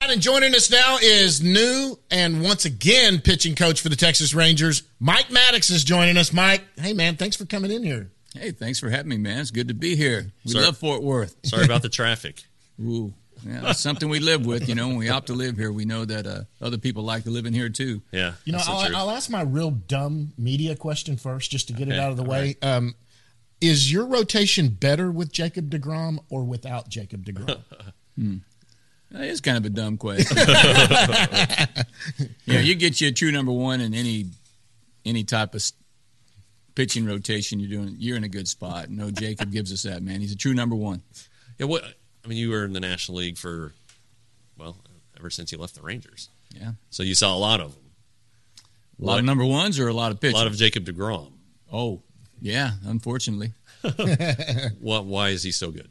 And joining us now is new and once again pitching coach for the Texas Rangers. Mike Maddox is joining us. Mike, hey, man, thanks for coming in here. Hey, thanks for having me, man. It's good to be here. We love Fort Worth. Sorry about the traffic. Ooh, yeah, that's something we live with. You know, when we opt to live here, we know that other people like to live in here, too. Yeah. You know, I'll ask my real dumb media question first just to get it out of the way. Right. Is your rotation better with Jacob deGrom or without Jacob deGrom? That is kind of a dumb question. Yeah, you get you a true number one in any type of pitching rotation you're in a good spot. No, Jacob gives us that, man. He's a true number one. Yeah, you were in the National League for, ever since you left the Rangers. Yeah. So you saw a lot of them. A lot of number ones or a lot of pitchers? A lot of Jacob deGrom. Oh, yeah, unfortunately. Why is he so good?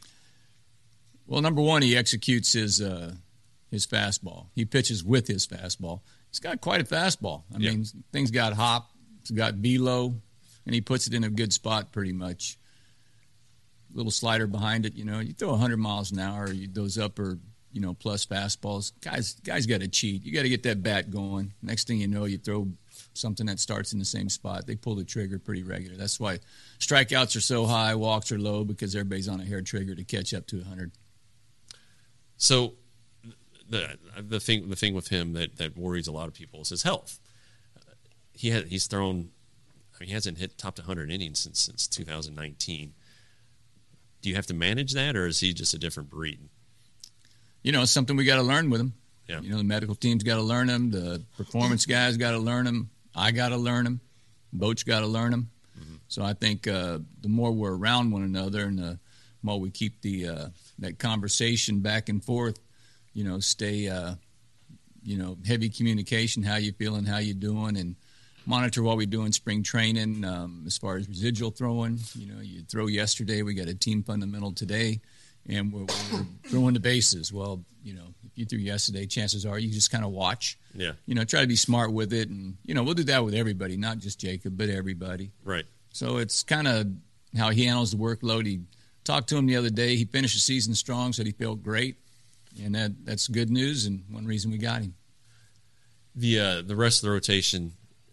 Well, number one, he executes his fastball. He pitches with his fastball. He's got quite a fastball. I mean, things got hop, it's got velo, and he puts it in a good spot pretty much. Little slider behind it, you know. You throw 100 miles an hour, those upper, plus fastballs. Guys got to cheat. You got to get that bat going. Next thing you know, you throw something that starts in the same spot. They pull the trigger pretty regular. That's why strikeouts are so high, walks are low, because everybody's on a hair trigger to catch up to 100. So the thing with him that worries a lot of people is his health. He's thrown. He hasn't hit top to 100 innings since 2019. Do you have to manage that, or is he just a different breed? It's something we got to learn with him. Yeah. The medical team's got to learn him. The performance guys got to learn him. I got to learn him. Boat's got to learn him. Mm-hmm. So I think the more we're around one another and the more we keep that conversation back and forth, stay, heavy communication, how you feeling, how you doing, and monitor what we do in spring training as far as residual throwing. You throw yesterday, we got a team fundamental today, and we're throwing the bases. Well, if you threw yesterday, chances are you just kind of watch. Yeah. Try to be smart with it, and, we'll do that with everybody, not just Jacob, but everybody. Right. So it's kind of how he handles the workload. He talked to him the other day. He finished the season strong, said he felt great, and that's good news, and one reason we got him. The rest of the rotation,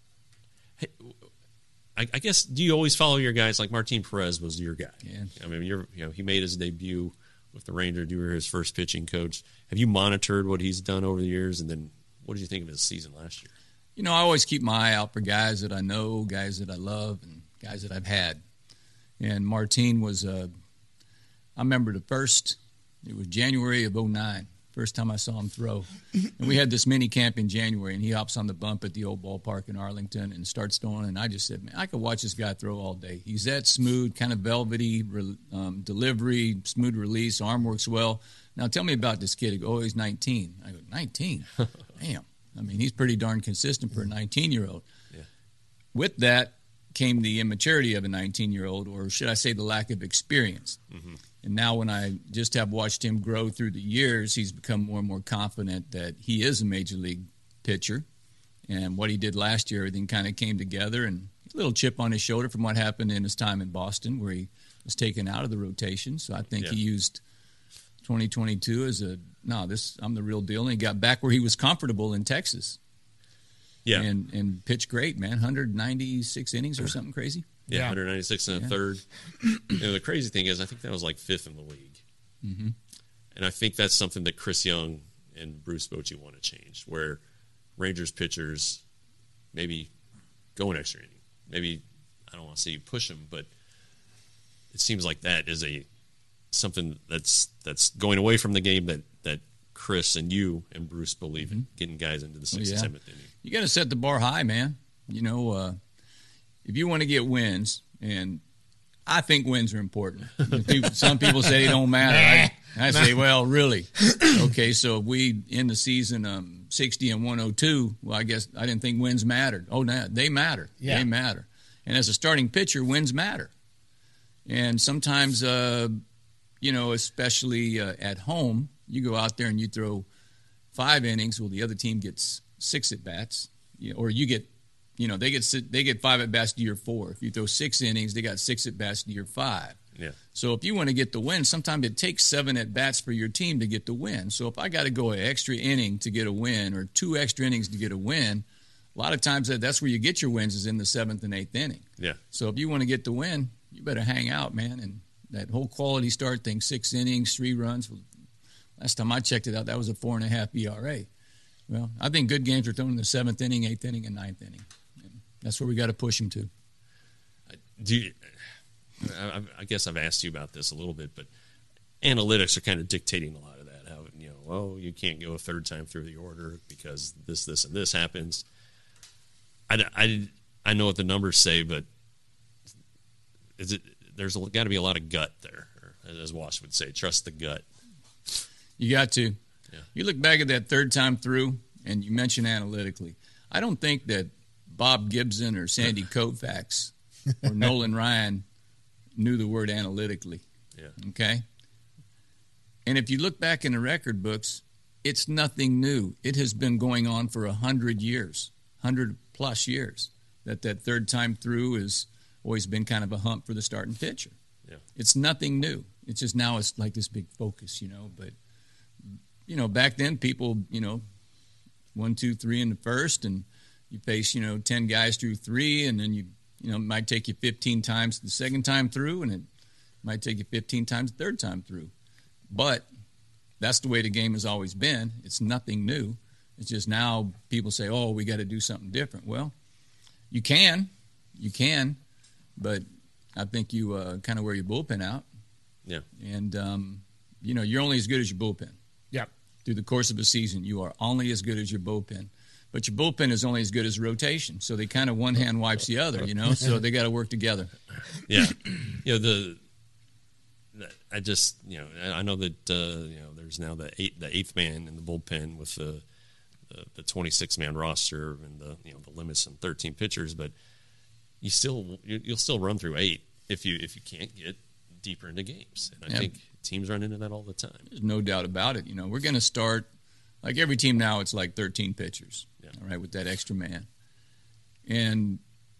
I guess, do you always follow your guys? Like Martin Perez was your guy. Yeah. I mean, he made his debut with the Rangers. You were his first pitching coach. Have you monitored what he's done over the years? And then what did you think of his season last year? I always keep my eye out for guys that I know, guys that I love, and guys that I've had. And Martin was, I remember it was January of 2009. First time I saw him throw. And we had this mini camp in January, and he hops on the bump at the old ballpark in Arlington and starts throwing. And I just said, man, I could watch this guy throw all day. He's that smooth, kind of velvety delivery, smooth release, arm works well. Now tell me about this kid. He goes, oh, he's 19. I go, 19? Damn. I mean, he's pretty darn consistent for a 19-year-old. Yeah. With that came the immaturity of a 19-year-old, or should I say the lack of experience. Mm-hmm. And now when I just have watched him grow through the years, he's become more and more confident that he is a major league pitcher. And what he did last year, everything kind of came together, and a little chip on his shoulder from what happened in his time in Boston where he was taken out of the rotation. So I think he used 2022 as I'm the real deal. And he got back where he was comfortable in Texas. Yeah. And pitched great, man. 196 innings or something crazy. Yeah, 196 and a third. The crazy thing is, I think that was like fifth in the league. Mm-hmm. And I think that's something that Chris Young and Bruce Bochy want to change, where Rangers pitchers maybe go an extra inning. Maybe, I don't want to say you push them, but it seems like that is something that's going away from the game that Chris and you and Bruce believe in, getting guys into the sixth and seventh inning. You got to set the bar high, man. If you want to get wins, and I think wins are important. Some people say they don't matter. I say, well, really? Okay, so if we end the season 60 and 102, well, I guess I didn't think wins mattered. Oh, no, they matter. Yeah. They matter. And as a starting pitcher, wins matter. And sometimes, especially at home, you go out there and you throw 5 innings. Well, the other team gets 6 at-bats, or you get they get 5 at-bats to your 4. If you throw 6 innings, they got 6 at-bats to your 5. Yeah. So if you want to get the win, sometimes it takes 7 at-bats for your team to get the win. So if I got to go an extra inning to get a win or 2 extra innings to get a win, a lot of times that's where you get your wins is in the 7th and 8th inning. Yeah. So if you want to get the win, you better hang out, man. And that whole quality start thing, 6 innings, 3 runs. Last time I checked it out, that was a 4.5 ERA. Well, I think good games are thrown in the 7th inning, 8th inning, and 9th inning. And that's where we got to push them to. I guess I've asked you about this a little bit, but analytics are kind of dictating a lot of that. How, you can't go a third time through the order because this, and this happens. I know what the numbers say, but there's got to be a lot of gut there, or as Wash would say, trust the gut. You got to. Yeah. You look back at that third time through, and you mention analytically. I don't think that Bob Gibson or Sandy Koufax or Nolan Ryan knew the word analytically. Yeah. Okay? And if you look back in the record books, it's nothing new. It has been going on for 100 years, 100-plus years, that third time through has always been kind of a hump for the starting pitcher. Yeah. It's nothing new. It's just now it's like this big focus, But, back then people, 1, 2, 3 in the first, and you face, 10 guys through 3, and then it might take you 15 times the second time through, and it might take you 15 times the third time through. But that's the way the game has always been. It's nothing new. It's just now people say, oh, we got to do something different. Well, you can, but I think you kind of wear your bullpen out. Yeah. And, you're only as good as your bullpen. Yeah. Through the course of a season, you are only as good as your bullpen. But your bullpen is only as good as rotation. So they kind of one hand wipes the other, so they got to work together. Yeah. I just, I know that, there's now the eighth man in the bullpen with the 26-man roster and the limits on 13 pitchers, but you'll still run through 8 if you can't get deeper into games. And I think teams run into that all the time. There's no doubt about it. We're going to start, like every team now, it's like 13 pitchers, all right, with that extra man. And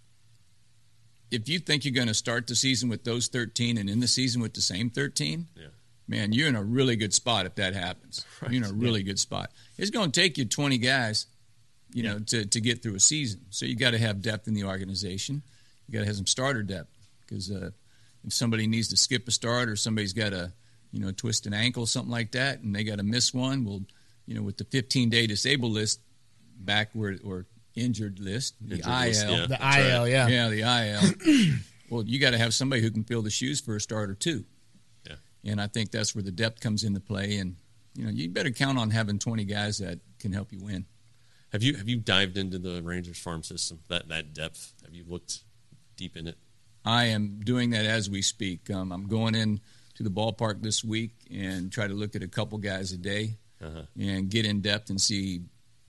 if you think you're going to start the season with those 13 and end the season with the same 13, man, you're in a really good spot if that happens. Right. You're in a really good spot. It's going to take you 20 guys, to get through a season. So you got to have depth in the organization. You got to have some starter depth because if somebody needs to skip a start or somebody's got a, twist an ankle, something like that, and they got to miss one, well, with the 15-day disabled list backward or injured list, the IL. List, the IL, right. Yeah, the IL. Well, you got to have somebody who can fill the shoes for a start or two. Yeah. And I think that's where the depth comes into play. And, you better count on having 20 guys that can help you win. Have you dived into the Rangers farm system, that depth? Have you looked deep in it? I am doing that as we speak. I'm going in to the ballpark this week and try to look at a couple guys a day and get in depth and see,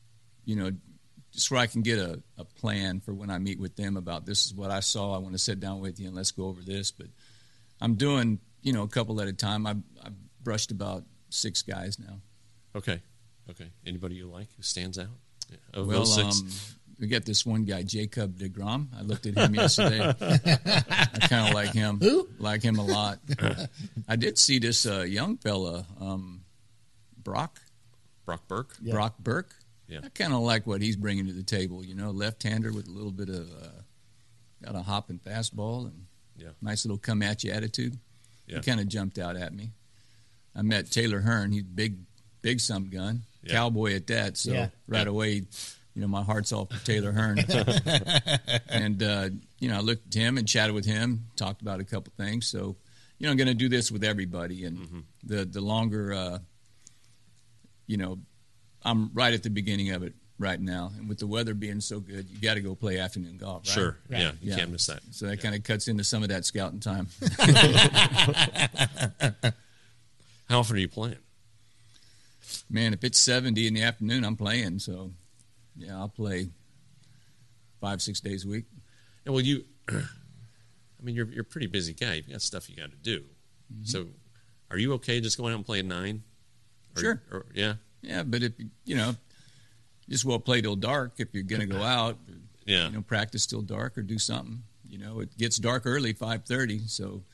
just where I can get a plan for when I meet with them about this is what I saw. I want to sit down with you and let's go over this. But I'm doing, a couple at a time. I've brushed about 6 guys now. Okay. Anybody you like who stands out? Of well, those 6? We got this one guy, Jacob deGrom. I looked at him yesterday. I kind of like him. Who? Like him a lot. I did see this young fella, Brock Burke. Yeah. Brock Burke. Yeah. I kind of like what he's bringing to the table. Left-hander with a little bit of got a hopping fastball and nice little come-at-you attitude. Yeah. He kind of jumped out at me. I met Taylor Hearn. He's big some gun, cowboy at that. So right away, my heart's off for Taylor Hearn. And I looked at him and chatted with him, talked about a couple things. So I'm going to do this with everybody. And the longer, I'm right at the beginning of it right now. And with the weather being so good, you got to go play afternoon golf, right? Sure. Right. Yeah, you can't miss that. So that kind of cuts into some of that scouting time. How often are you playing? Man, if it's 70 in the afternoon, I'm playing. So, I'll play 5-6 days a week. Yeah, well, you're a pretty busy guy. You've got stuff you got to do. Mm-hmm. So, are you okay just going out and playing 9? Sure. Yeah. Yeah, but if just well play till dark if you're going to go out. Yeah. Practice till dark or do something. It gets dark early, 5:30. So,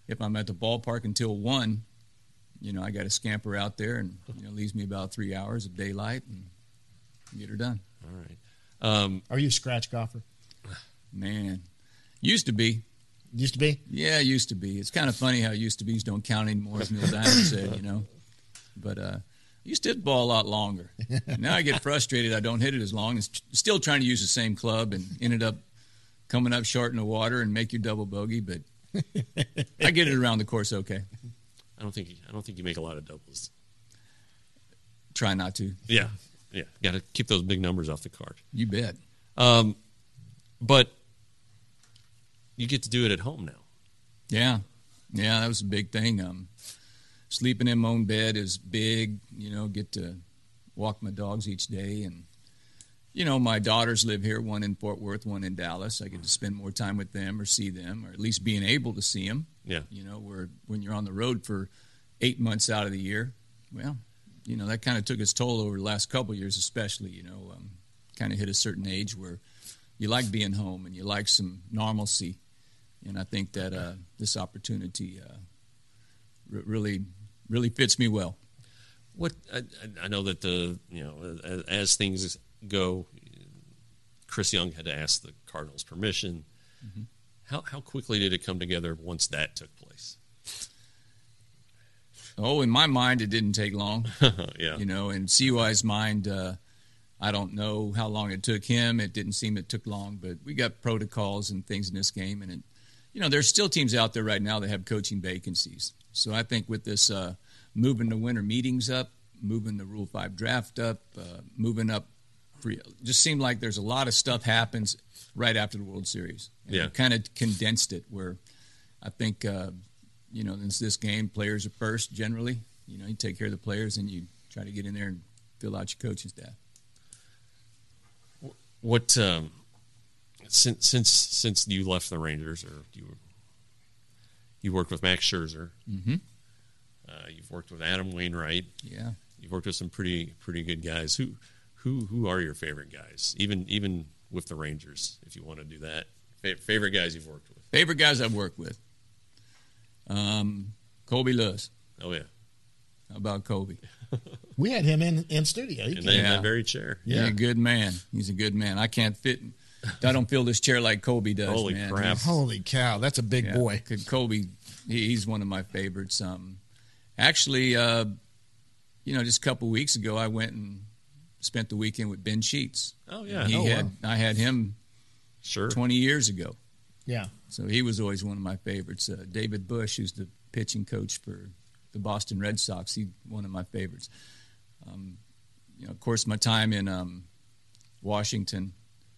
if I'm at the ballpark until 1, I got to scamper out there, and leaves me about 3 hours of daylight and get her done. All right. Are you a scratch golfer? Man, used to be. Used to be? Yeah, used to be. It's kind of funny how used to be's don't count anymore, as Neil Diamond said, But I used to hit the ball a lot longer. Now I get frustrated. I don't hit it as long. It's still trying to use the same club and ended up coming up short in the water and make your double bogey, but I get it around the course okay. I don't think you make a lot of doubles. Try not to. Yeah. Got to keep those big numbers off the card. You bet. But you get to do it at home now. Yeah, that was a big thing. Sleeping in my own bed is big. Get to walk my dogs each day, and my daughters live here. One in Fort Worth, one in Dallas. I get to spend more time with them, or see them, or at least being able to see them. Yeah. Where when you're on the road for 8 months out of the year, well, that kind of took its toll over the last couple of years, especially. Kind of hit a certain age where you like being home and you like some normalcy. And I think that this opportunity really fits me well. What I know that as things go, Chris Young had to ask the Cardinals' permission. Mm-hmm. How quickly did it come together once that took place? Oh, in my mind, it didn't take long. Yeah. In CY's mind, I don't know how long it took him. It didn't seem it took long, but we got protocols and things in this game, and there's still teams out there right now that have coaching vacancies. So I think with this moving the winter meetings up, moving the Rule 5 draft up, moving up, just seemed like there's a lot of stuff happens right after the World Series. And kind of condensed it where I think, in this game, players are first generally. You take care of the players and you try to get in there and fill out your coaching staff. What since you left the Rangers, or you worked with Max Scherzer, mm-hmm. You've worked with Adam Wainwright, yeah, you've worked with some pretty good guys. Who are your favorite guys? Even with the Rangers, if you want to do that, favorite guys you've worked with. Favorite guys I've worked with. Colby Lewis. Oh yeah. How about Colby? We had him in studio. In that very chair. Yeah, he's a good man. He's a good man. I can't fit. I don't feel this chair like Colby does. Holy man. crap! Holy cow, that's a big boy. Colby, he's one of my favorites. Actually, just a couple weeks ago, I went and spent the weekend with Ben Sheets. Oh yeah, I had him 20 years ago. Yeah. So he was always one of my favorites. David Bush, who's the pitching coach for the Boston Red Sox, he's one of my favorites. Of course, my time in Washington,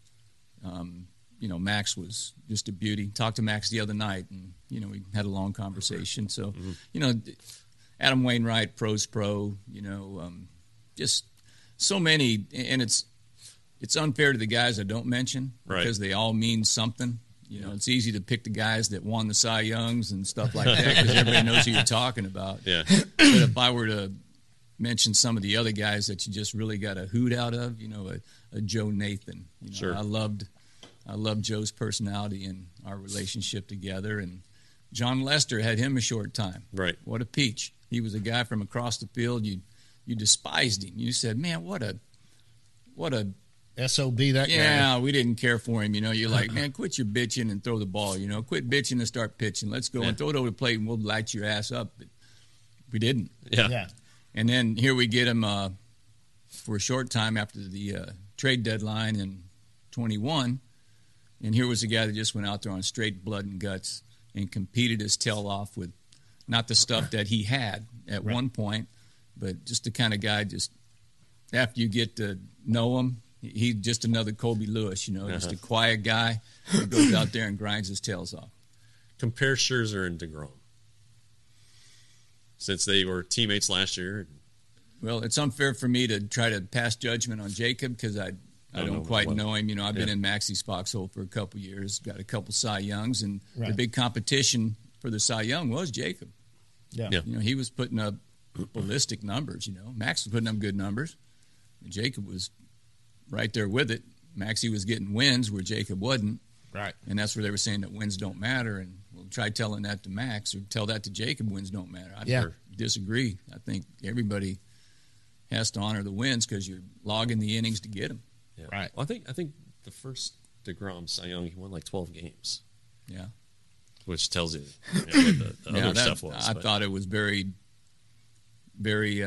Max was just a beauty. Talked to Max the other night, and, we had a long conversation. So, Adam Wainwright, pro's pro, just so many. And it's unfair to the guys I don't mention because they all mean something. It's easy to pick the guys that won the Cy Youngs and stuff like that because everybody knows who you're talking about. Yeah. But if I were to mention some of the other guys that you just really got a hoot out of, a Joe Nathan. Sure. I loved Joe's personality and our relationship together. And John Lester had him a short time. Right. What a peach. He was a guy from across the field. You despised him. You said, man, what a SOB, that guy. Yeah, we didn't care for him. You're like, man, quit your bitching and throw the ball. Quit bitching and start pitching. Let's go and throw it over the plate, and we'll light your ass up. But we didn't. Yeah. And then here we get him for a short time after the trade deadline in 21. And here was a guy that just went out there on straight blood and guts and competed his tail off with not the stuff that he had at one point, but just the kind of guy just after you get to know him, he's just another Colby Lewis, just a quiet guy who goes out there and grinds his tails off. Compare Scherzer and DeGrom. Since they were teammates last year. Well, it's unfair for me to try to pass judgment on Jacob because I don't quite know him. I've been in Maxie's foxhole for a couple years, got a couple Cy Youngs, and the big competition for the Cy Young was Jacob. Yeah. He was putting up ballistic numbers, Max was putting up good numbers. Jacob was right there with it. Maxie was getting wins where Jacob wasn't. Right. And that's where they were saying that wins don't matter. And we'll try telling that to Max or tell that to Jacob, wins don't matter. I disagree. I think everybody has to honor the wins because you're logging the innings to get them. Yeah. Right. Well, I think the first DeGrom Cy Young, he won like 12 games. Yeah. Which tells you, what the other that, stuff was. I thought it was very, very.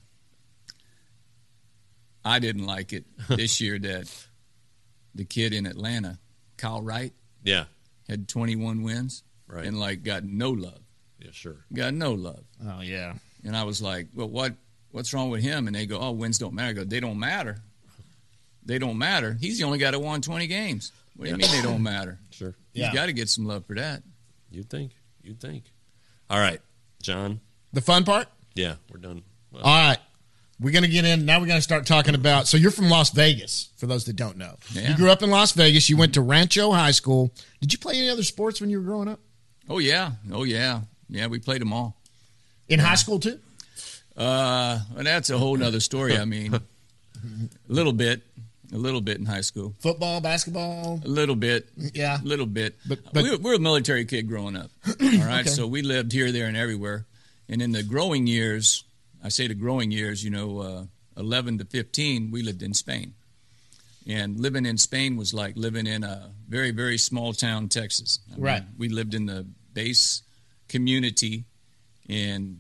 I didn't like it this year that the kid in Atlanta, Kyle Wright, had 21 wins and got no love. Yeah, sure. Got no love. Oh yeah. And I was like, well, what's wrong with him? And they go, oh, wins don't matter. I go, they don't matter. They don't matter. He's the only guy that won 20 games. What do you mean they don't matter? Sure. He's got to get some love for that. You'd think. All right, John. The fun part? Yeah, we're done. Well, all right. We're going to get in. Now we're going to start talking about. So you're from Las Vegas, for those that don't know. Yeah. You grew up in Las Vegas. You went to Rancho High School. Did you play any other sports when you were growing up? Oh, yeah. Yeah, we played them all. In high school, too? Well, that's a whole nother story. I mean, a little bit in high school. Football, basketball? A little bit. Yeah. A little bit. But we were a military kid growing up. All right. Okay. So we lived here, there, and everywhere. And in the growing years, I say the growing years, 11 to 15, we lived in Spain. And living in Spain was like living in a very, very small town, Texas. I mean, we lived in the base community. And,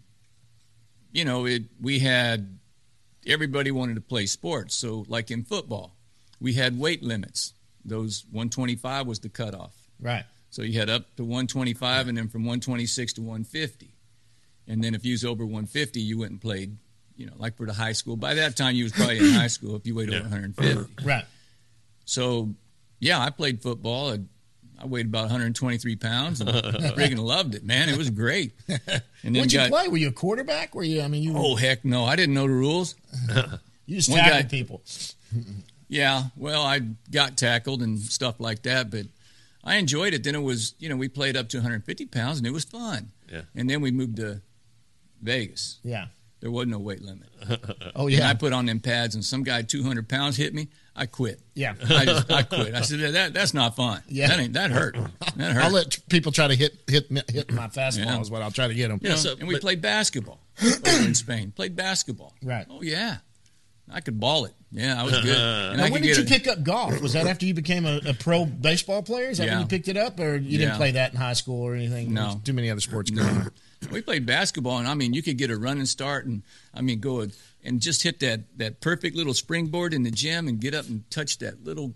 we had everybody wanted to play sports. So like in football, we had weight limits. Those 125 was the cutoff. Right. So you had up to 125 and then from 126 to 150. And then if you was over 150, you went and played, like for the high school. By that time, you was probably in high school if you weighed over 150. Right. So, I played football. I weighed about 123 pounds and freaking loved it, man. It was great. And then What'd you play? Were you a quarterback? Were you? Oh, heck no. I didn't know the rules. You just tackled people. Yeah. Well, I got tackled and stuff like that, but I enjoyed it. Then it was, we played up to 150 pounds and it was fun. Yeah. And then we moved to Vegas. Yeah. There wasn't no weight limit. Oh, yeah. And I put on them pads, and some guy 200 pounds hit me. I quit. Yeah. I quit. I said, that's not fun. Yeah. That hurt. That hurt. I'll let people try to hit my fastball is what I'll try to get them. And we played basketball over in Spain. Played basketball. Right. Oh, yeah. I could ball it. Yeah, I was good. And now, when did you pick up golf? Was that after you became a pro baseball player? Is that when you picked it up? Or you didn't play that in high school or anything? No. There's too many other sports going on. We played basketball, and, you could get a running start and, go and just hit that perfect little springboard in the gym and get up and touch that little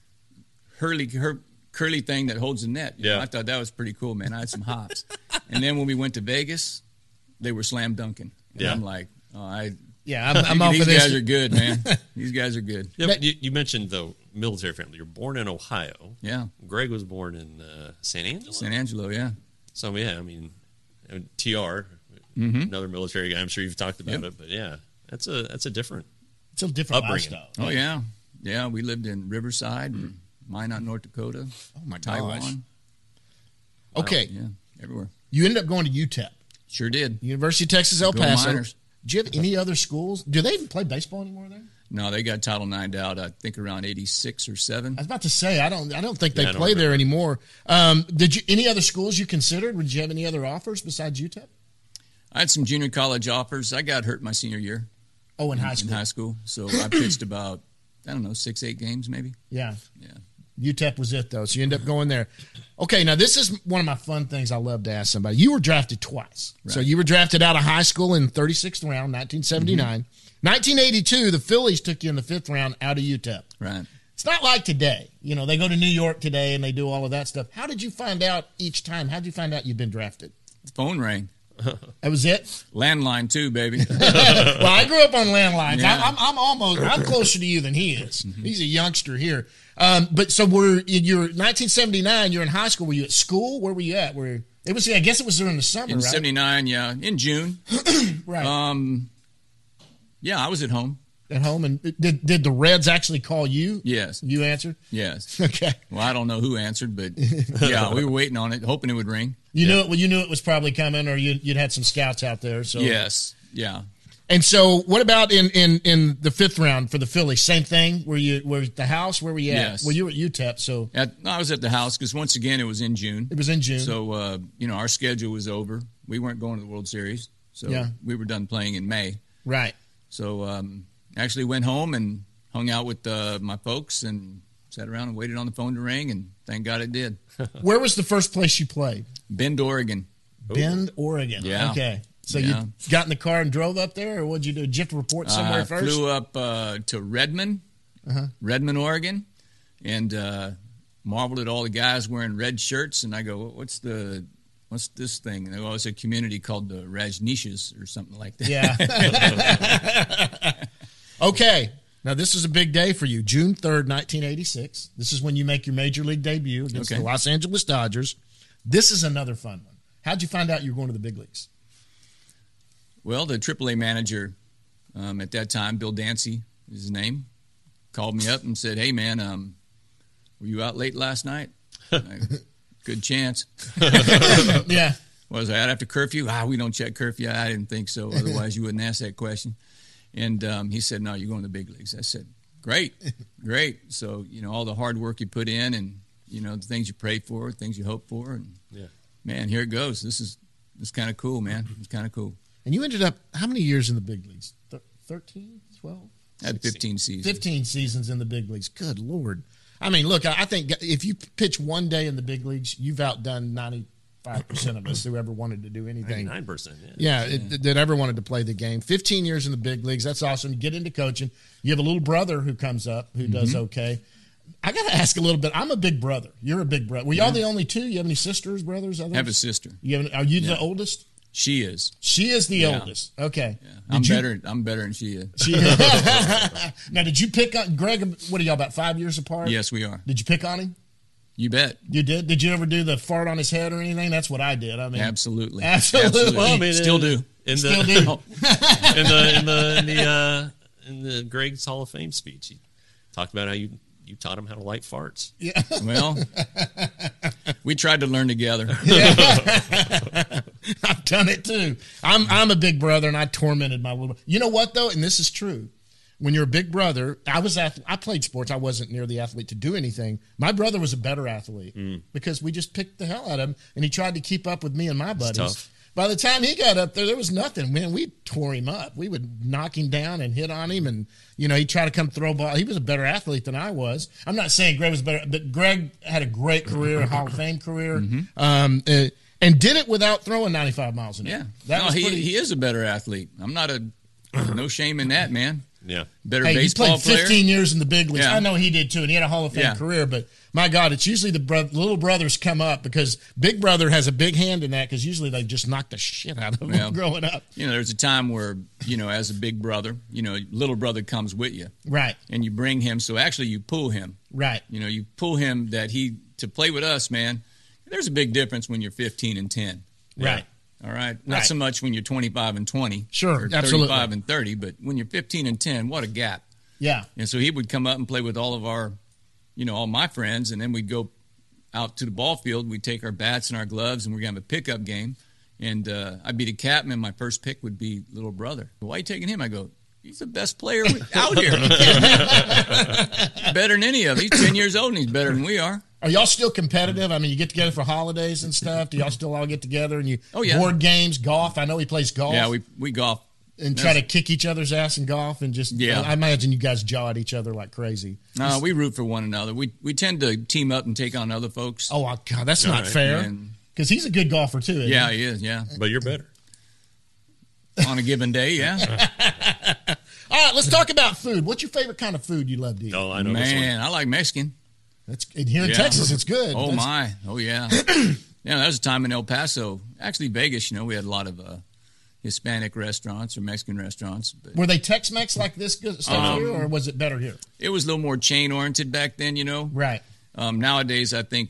curly thing that holds the net. You know, I thought that was pretty cool, man. I had some hops. And then when we went to Vegas, they were slam dunking. And I'm like, I'm off these of this. guys are good, man. These guys are good. Yeah, but you mentioned the military family. You're born in Ohio. Yeah. Greg was born in San Angelo. San Angelo, yeah. So, TR, another military guy. I'm sure you've talked about it, but that's a different. It's a different upbringing. lifestyle. Oh yeah. We lived in Riverside, Minot, North Dakota. Oh my Taiwan. gosh. Okay. Yeah, everywhere. You ended up going to UTEP. Sure did. University of Texas El Paso. Miners. Do you have any other schools? Do they even play baseball anymore there? No, they got Title IX out, I think, around 86 or 7. I was about to say, I don't think they play there anymore. Did you any other schools you considered? Did you have any other offers besides UTEP? I had some junior college offers. I got hurt my senior year. Oh, in high school. In high school. So I pitched about, 6-8 games maybe. Yeah. UTEP was it, though. So you end up going there. Okay, now this is one of my fun things I love to ask somebody. You were drafted twice. Right. So you were drafted out of high school in 36th round, 1979. 1982, the Phillies took you in the 5th round out of UTEP. Right. It's not like today. They go to New York today and they do all of that stuff. How did you find out each time? How did you find out you'd been drafted? The phone rang. That was it? Landline too, baby. Well, I grew up on landlines. Yeah. I'm closer to you than he is. He's a youngster here. But so you're 1979, you're in high school. Were you at school? Where were you at? I guess it was during the summer, in right? 79, yeah. In June. Right. Yeah, I was at home. At home, and did the Reds actually call you? Yes. You answered? Yes. Okay. Well, I don't know who answered, but yeah, we were waiting on it, hoping it would ring. You knew it was probably coming, or you'd had some scouts out there. So yes, yeah. And so, what about in the fifth round for the Phillies? Same thing. Were at the house? Where were you at? Yes. Well, you were at UTEP. So I was at the house because once again it was in June. It was in June. So our schedule was over. We weren't going to the World Series, so we were done playing in May. Right. So actually went home and hung out with my folks and sat around and waited on the phone to ring, and thank God it did. Where was the first place you played? Bend, Oregon. Bend, Oregon. Yeah. Okay. So you got in the car and drove up there, or what'd you do? Did you have to report somewhere first? Flew up to Redmond, Redmond, Oregon, and marveled at all the guys wearing red shirts. And I go, what's this thing? And they go, it's a community called the Rajneeshis or something like that. Yeah. Okay. Now, this is a big day for you. June 3rd, 1986. This is when you make your major league debut against the Los Angeles Dodgers. This is another fun one. How'd you find out you were going to the big leagues? Well, the AAA manager at that time, Bill Dancy is his name, called me up and said, hey, man, were you out late last night? Good chance. Yeah. Was I out after curfew? We don't check curfew. I didn't think so. Otherwise, you wouldn't ask that question. And he said, no, you're going to the big leagues. I said, great. So, all the hard work you put in and, the things you pray for, things you hope for. And, man, here it goes. This is kind of cool, man. It's kind of cool. And you ended up, how many years in the big leagues? 13, 12? I had 15 seasons. 15 seasons in the big leagues. Good Lord. I mean, look, I think if you pitch one day in the big leagues, you've outdone 95% of us who ever wanted to do anything. 99%, that ever wanted to play the game. 15 years in the big leagues. That's awesome. You get into coaching. You have a little brother who comes up who does okay. I got to ask a little bit. I'm a big brother. You're a big brother. Were y'all the only two? You have any sisters, brothers, others? I have a sister. Are you the oldest? She is. She is the oldest. Okay. Yeah. I'm better than she is. Now, did you pick on Greg? What are y'all, about 5 years apart? Yes, we are. Did you pick on him? You bet. You did? Did you ever do the fart on his head or anything? That's what I did. I mean, absolutely. Well, I mean, still do. In the Greg's Hall of Fame speech, he talked about how you taught him how to light farts. Yeah. Well, we tried to learn together. I've done it too. I'm a big brother, and I tormented my little. You know what though, and this is true. When you're a big brother, I played sports. I wasn't near the athlete to do anything. My brother was a better athlete because we just picked the hell out of him, and he tried to keep up with me and my buddies. Tough. By the time he got up there was nothing. Man, we tore him up. We would knock him down and hit on him, and he'd try to come throw ball. He was a better athlete than I was. I'm not saying Greg was better, but Greg had a great career, a Hall of Fame career, and did it without throwing 95 miles an hour. Yeah, he is a better athlete. I'm not no shame in that, man. Yeah, better he baseball played player. 15 years in the big leagues. Yeah. I know he did too, and he had a Hall of Fame career. But my God, it's usually the little brothers come up because Big Brother has a big hand in that because usually they just knock the shit out of them growing up. There's a time where as a big brother, little brother comes with you, right, and you bring him. So actually, you pull him, right. You pull him to play with us, man. There's a big difference when you're 15 and 10, right. All right. Not so much when you're 25 and 20. Sure, or 35 absolutely. and 30, but when you're 15 and 10, what a gap. Yeah. And so he would come up and play with all of our, all my friends, and then we'd go out to the ball field. We'd take our bats and our gloves, and we're going to have a pickup game. And I'd be the captain, and my first pick would be little brother. Why are you taking him? I go, he's the best player out here. Better than any of them. He's 10 years old, and he's better than we are. Are y'all still competitive? I mean, you get together for holidays and stuff. Do y'all still all get together and you board games, golf? I know he plays golf. Yeah, we golf. And try to kick each other's ass in golf and just I imagine you guys jaw at each other like crazy. No, we root for one another. We tend to team up and take on other folks. Oh, God, that's not fair. Because he's a good golfer, too, isn't he? He is, yeah. But you're better. On a given day, yeah. All right, let's talk about food. What's your favorite kind of food you love to eat? Oh, I know Man, I like Mexican. Here in Texas, it's good. Oh, my. Oh, yeah. There was a time in El Paso, actually Vegas, we had a lot of Hispanic restaurants or Mexican restaurants. But, were they Tex-Mex like this stuff here, or was it better here? It was a little more chain-oriented back then, Right. Nowadays, I think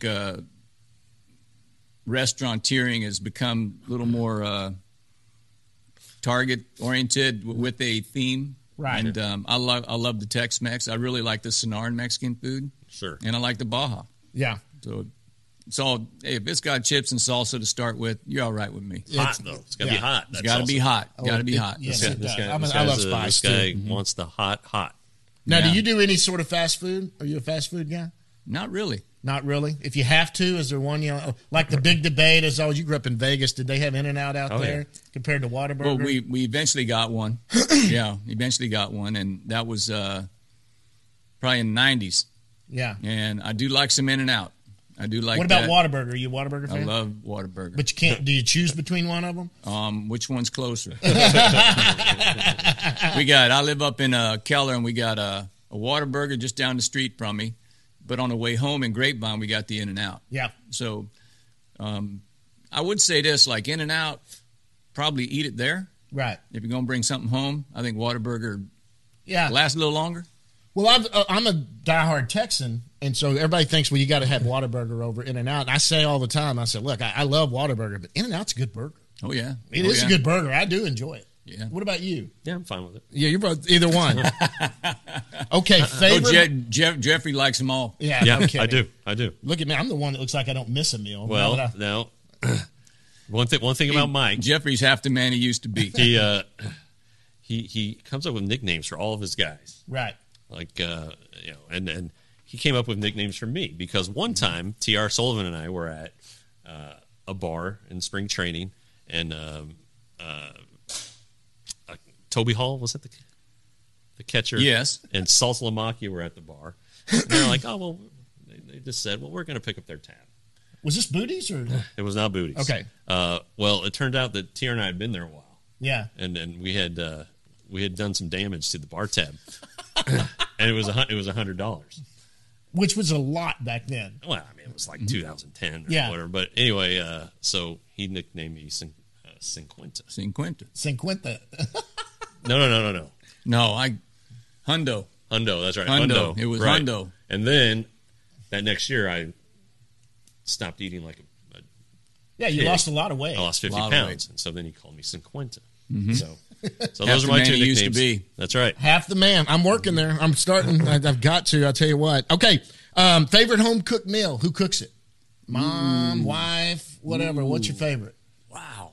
restauranteering has become a little more target-oriented with a theme. Right. And I love the Tex-Mex. I really like the Sonoran Mexican food. Sure. And I like the Baja. Yeah. So So if it's got chips and salsa to start with, you're all right with me. Hot though. It's gotta be hot. It's got to be hot. Got to be hot. Yes, This it does. guy, I love spice, this guy too. wants the hot. Now, Yeah. do you do any sort of fast food? Are you a fast food guy? Not really. Not really. If you have to, is there one, like the big debate is, you grew up in Vegas. Did they have In-N-Out out Oh, there yeah. compared to Whataburger? Well, we eventually got one. Yeah, eventually got one, and that was probably in the 90s. yeah. And I do like some In-N-Out. I do like What about that. Whataburger? Are you a Whataburger I fan? love Whataburger. But you can't. Do you choose between one of them? Which one's closer? I live up in Keller, and we got a Whataburger just down the street from me. But on the way home in Grapevine, we got the In-N-Out. Yeah. So I would say this, like In-N-Out, probably eat it there. Right. If you're going to bring something home, I think Whataburger Yeah. lasts a little longer. Well, I'm a diehard Texan, and so everybody thinks, well, you got to have Whataburger over In-N-Out. And I say all the time, I said, look, I love Whataburger, but In-N-Out's a good burger. Oh, yeah. It is a good burger. I do enjoy it. Yeah. What about you? Yeah, I'm fine with it. Yeah, you're both either one. Okay, favorite. Jeffrey likes them all. Yeah, Yeah, no kidding. I do. Look at me. I'm the one that looks like I don't miss a meal. Well, now, one thing about Mike, Jeffrey's half the man he used to be. he comes up with nicknames for all of his guys. Right. Like and he came up with nicknames for me because one time T.R. Sullivan and I were at a bar in spring training, and Toby Hall, was that the catcher? Yes. And Salt Lamacchia were at the bar, and they're like, oh well, they just said, well, we're going to pick up their tab. Was this Booties or? It was not Booties. Okay. Well, it turned out that T.R. and I had been there a while, Yeah. and we had done some damage to the bar tab, and it was $100. Which was a lot back then. Well, I mean, it was like 2010 or Yeah. whatever. But anyway, so he nicknamed me Cinquenta. Cinquenta. Cinquenta. No. No, Hundo. Hundo, that's right. Hundo. It was right. Hundo. And then that next year, I stopped eating like a Yeah, you Yeah. lost a lot of weight. I lost 50 Lot of weight. pounds. And so then he called me Cinquenta. Mm-hmm. So Half those are the my man two he nicknames. used to be. That's right. Half the man. I'm working there. I'm starting. I've got to. I'll tell you what. Okay. Favorite home cooked meal. Who cooks it? Mom, wife, whatever. What's your favorite? Wow.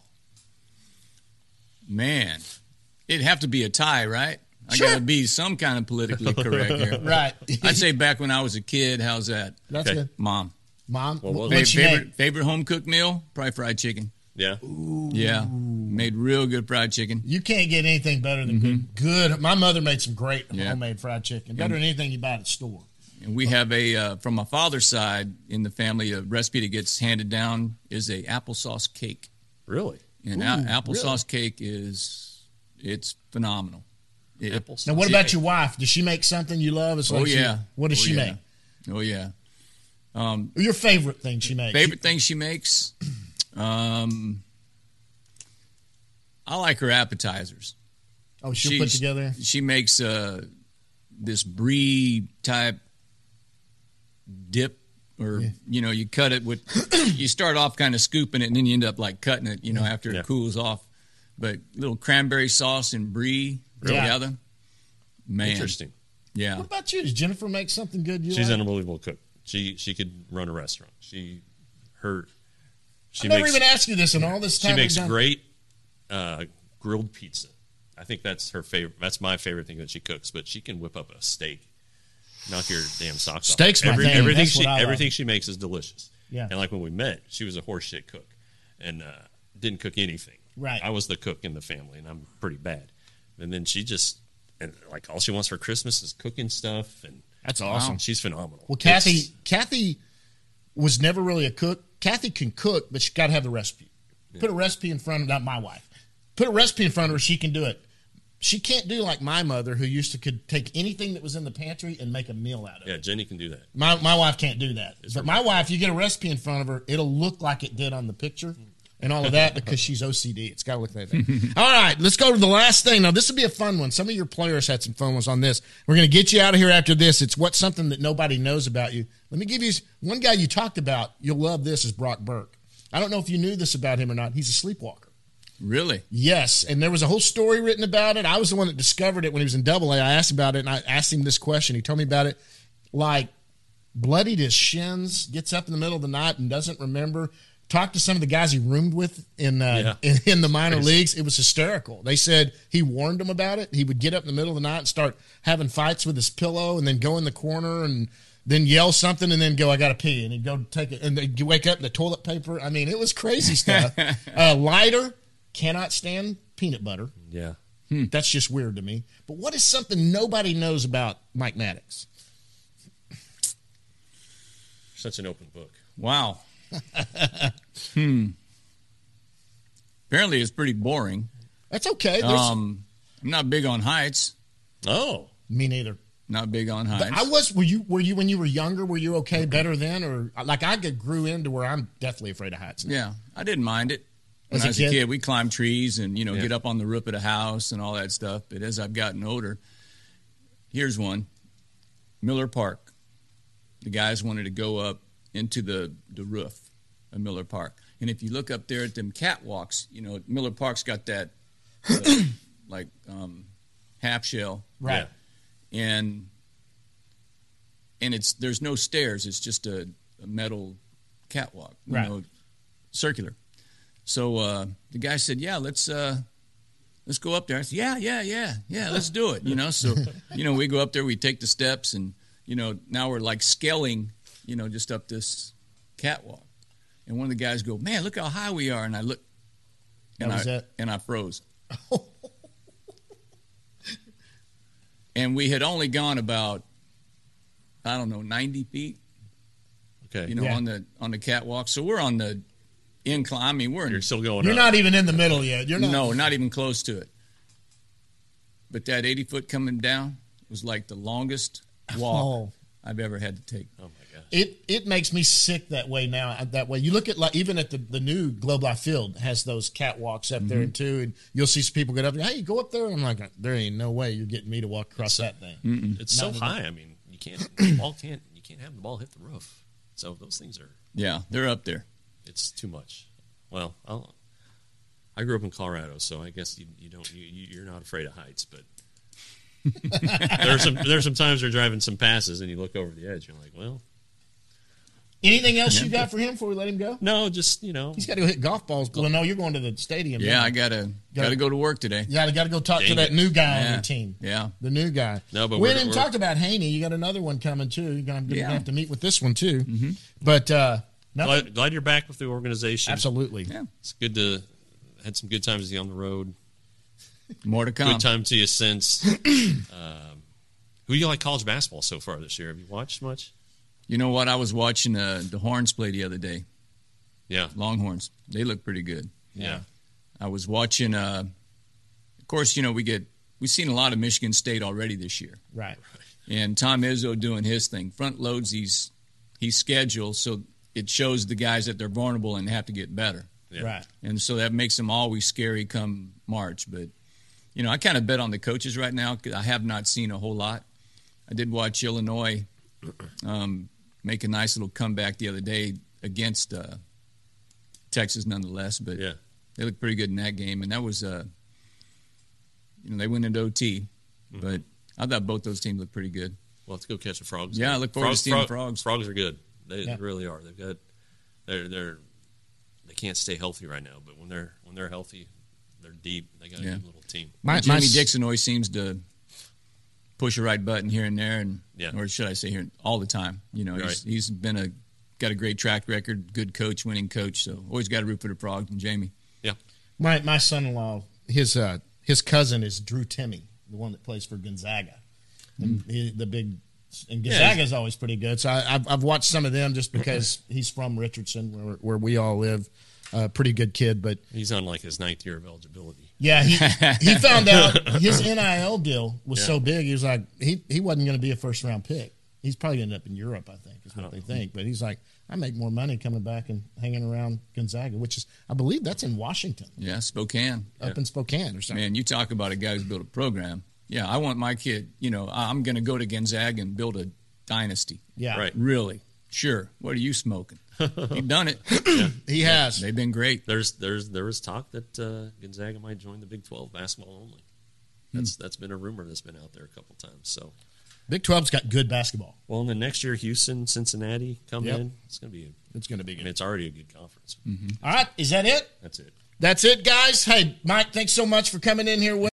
Man. It'd have to be a tie, right? I Sure. got to be some kind of politically correct here. Right. I'd say back when I was a kid, how's that? That's Okay. good. Mom. Mom, What was what's your name? Favorite home cooked meal? Probably fried chicken. Yeah. Yeah. Made real good fried chicken. You can't get anything better than good. My mother made some great Yeah. homemade fried chicken. Better than anything you buy at the store. And we have from my father's side in the family, a recipe that gets handed down is a applesauce cake. Really? And applesauce cake it's phenomenal. Apples. Now, what about your wife? Does she make something you love? It's like Oh, yeah. What does Oh, she yeah. make? Oh, yeah. Your favorite thing she makes? Favorite thing she makes? I like her appetizers. Oh, she'll put together. She makes this brie type dip, or you cut it with. You start off kind of scooping it, and then you end up like cutting it. After Yeah. it cools off. But little cranberry sauce and brie Really? together. Man, Interesting. Yeah. What about you? Does Jennifer make something good you She's like? an unbelievable cook. She could run a restaurant. She I never even asked you this in all this time. She makes we've done. great grilled pizza. I think that's her favorite. That's my favorite thing that she cooks. But she can whip up a steak, knock your damn socks off. Steak's my thing. Everything That's what I love. everything she makes is delicious. Yeah. And like when we met, she was a horseshit cook and didn't cook anything. Right. I was the cook in the family, and I'm pretty bad. And then she just like all she wants for Christmas is cooking stuff, and That's awesome. she's phenomenal. Well, It's- Kathy was never really a cook. Kathy can cook, but she got to have the recipe. Put a recipe in front of not my wife. Put a recipe in front of her, she can do it. She can't do like my mother, who could take anything that was in the pantry and make a meal out of Yeah, it. Jenny can do that. My wife can't do that. But my wife, you get a recipe in front of her, it'll look like it did on the picture and all of that because she's OCD. It's got to look like that. All right, let's go to the last thing. Now, this will be a fun one. Some of your players had some fun ones on this. We're going to get you out of here after this. It's what's something that nobody knows about you. Let me give you one guy you talked about. You'll love this is Brock Burke. I don't know if you knew this about him or not. He's a sleepwalker. Really? Yes, and there was a whole story written about it. I was the one that discovered it when he was in Double-A. I asked about it, and I asked him this question. He told me about it like bloodied his shins, gets up in the middle of the night and doesn't remember. Talked to some of the guys he roomed with in the minor leagues. It was hysterical. They said he warned them about it. He would get up in the middle of the night and start having fights with his pillow and then go in the corner and then yell something and then go, I got to pee. And he'd go take it. And they'd wake up in the toilet paper. I mean, it was crazy stuff. Lighter, cannot stand peanut butter. Yeah. That's just weird to me. But what is something nobody knows about Mike Maddox? Such an open book. Wow. Apparently it's pretty boring. That's okay. I'm not big on heights. Oh. Me neither. Not big on heights. But I was. Were you when you were younger? Were you okay better then, or like I grew into where I'm definitely afraid of heights now. Yeah, I didn't mind it. When I was a kid, we climbed trees and get up on the roof of the house and all that stuff. But as I've gotten older, here's one: Miller Park. The guys wanted to go up into the roof of Miller Park, and if you look up there at them catwalks, Miller Park's got that half shell, right? Yeah. And there's no stairs. It's just a metal catwalk, circular. So the guy said, "Yeah, let's go up there." I said, "Yeah, let's do it." So we go up there, we take the steps, and now we're like scaling, just up this catwalk. And one of the guys go, "Man, look how high we are!" And I look, and I froze. And we had only gone about, 90 feet. Okay. On the catwalk. So we're on the incline. I mean, You're still going You're up. not even in the middle yet. You're not. No, not even close to it. But that 80 foot coming down was like the longest walk I've ever had to take. Oh my gosh. It makes me sick that way now. That way, you look at even at the new Globe Life Field has those catwalks up there too, and you'll see some people get up there. Hey, go up there. And I'm like, there ain't no way you're getting me to walk across that thing. It's so high. I mean, you can't have the ball hit the roof. So those things are. Yeah, they're up there. It's too much. Well, I grew up in Colorado, so I guess you're not afraid of heights, but. there's some times you're driving some passes and you look over the edge. You're like, well. Anything else you got for him before we let him go? No, just he's got to go hit golf balls. Well, no, you're going to the stadium. Yeah, I gotta go to work today. Yeah, I got to go talk to that new guy on your team. Yeah, the new guy. No, but we didn't talk about Haney. You got another one coming too. You're going to have to meet with this one too. Mm-hmm. But glad you're back with the organization. Absolutely. Yeah, it's good to had some good times with you on the road. More to come. Good time to you since. Who do you like college basketball so far this year? Have you watched much? You know what? I was watching the Horns play the other day. Yeah. Longhorns. They look pretty good. Yeah. I was watching, of course, we've seen a lot of Michigan State already this year. Right. And Tom Izzo doing his thing. Front loads he's scheduled, so it shows the guys that they're vulnerable and have to get better. Yeah. Right. And so that makes them always scary come March. But, I kind of bet on the coaches right now because I have not seen a whole lot. I did watch Illinois make a nice little comeback the other day against Texas nonetheless. But they looked pretty good in that game. And that was, they went into OT. Mm-hmm. But I thought both those teams looked pretty good. Well, let's go catch the Frogs. Yeah, I look forward to seeing the Frogs. Frogs are good. They really are. They've got they can't stay healthy right now, but when they're healthy, they're deep. They got a good little team. Jimmy Dixon always seems to push a right button here and there, or should I say here all the time. He's been got a great track record, good coach, winning coach. So always got to root for the Frogs and Jamie. Yeah, my son-in-law, his cousin is Drew Timme, the one that plays for Gonzaga, the big. And Gonzaga's always pretty good. So I've watched some of them just because he's from Richardson, where we all live. Pretty good kid, but he's on like his 9th year of eligibility. Yeah, he found out his NIL deal was so big. He was like, he wasn't going to be a first round pick. He's probably going to end up in Europe, I think, is what they think. But he's like, I make more money coming back and hanging around Gonzaga, which is, I believe that's in Washington. Yeah, Spokane. Up in Spokane or something. Man, you talk about a guy who's built a program. Yeah, I want my kid, I'm going to go to Gonzaga and build a dynasty. Yeah. Right. Really? Sure. What are you smoking? He's done it. He has. They've been great. There was talk that Gonzaga might join the Big 12 basketball only. That's been a rumor that's been out there a couple times. So Big 12's got good basketball. Well, and then next year, Houston, Cincinnati come Yep. in. It's going to be good. And it's already a good conference. All right, is that it? That's it. That's it, guys. Hey, Mike, thanks so much for coming in here with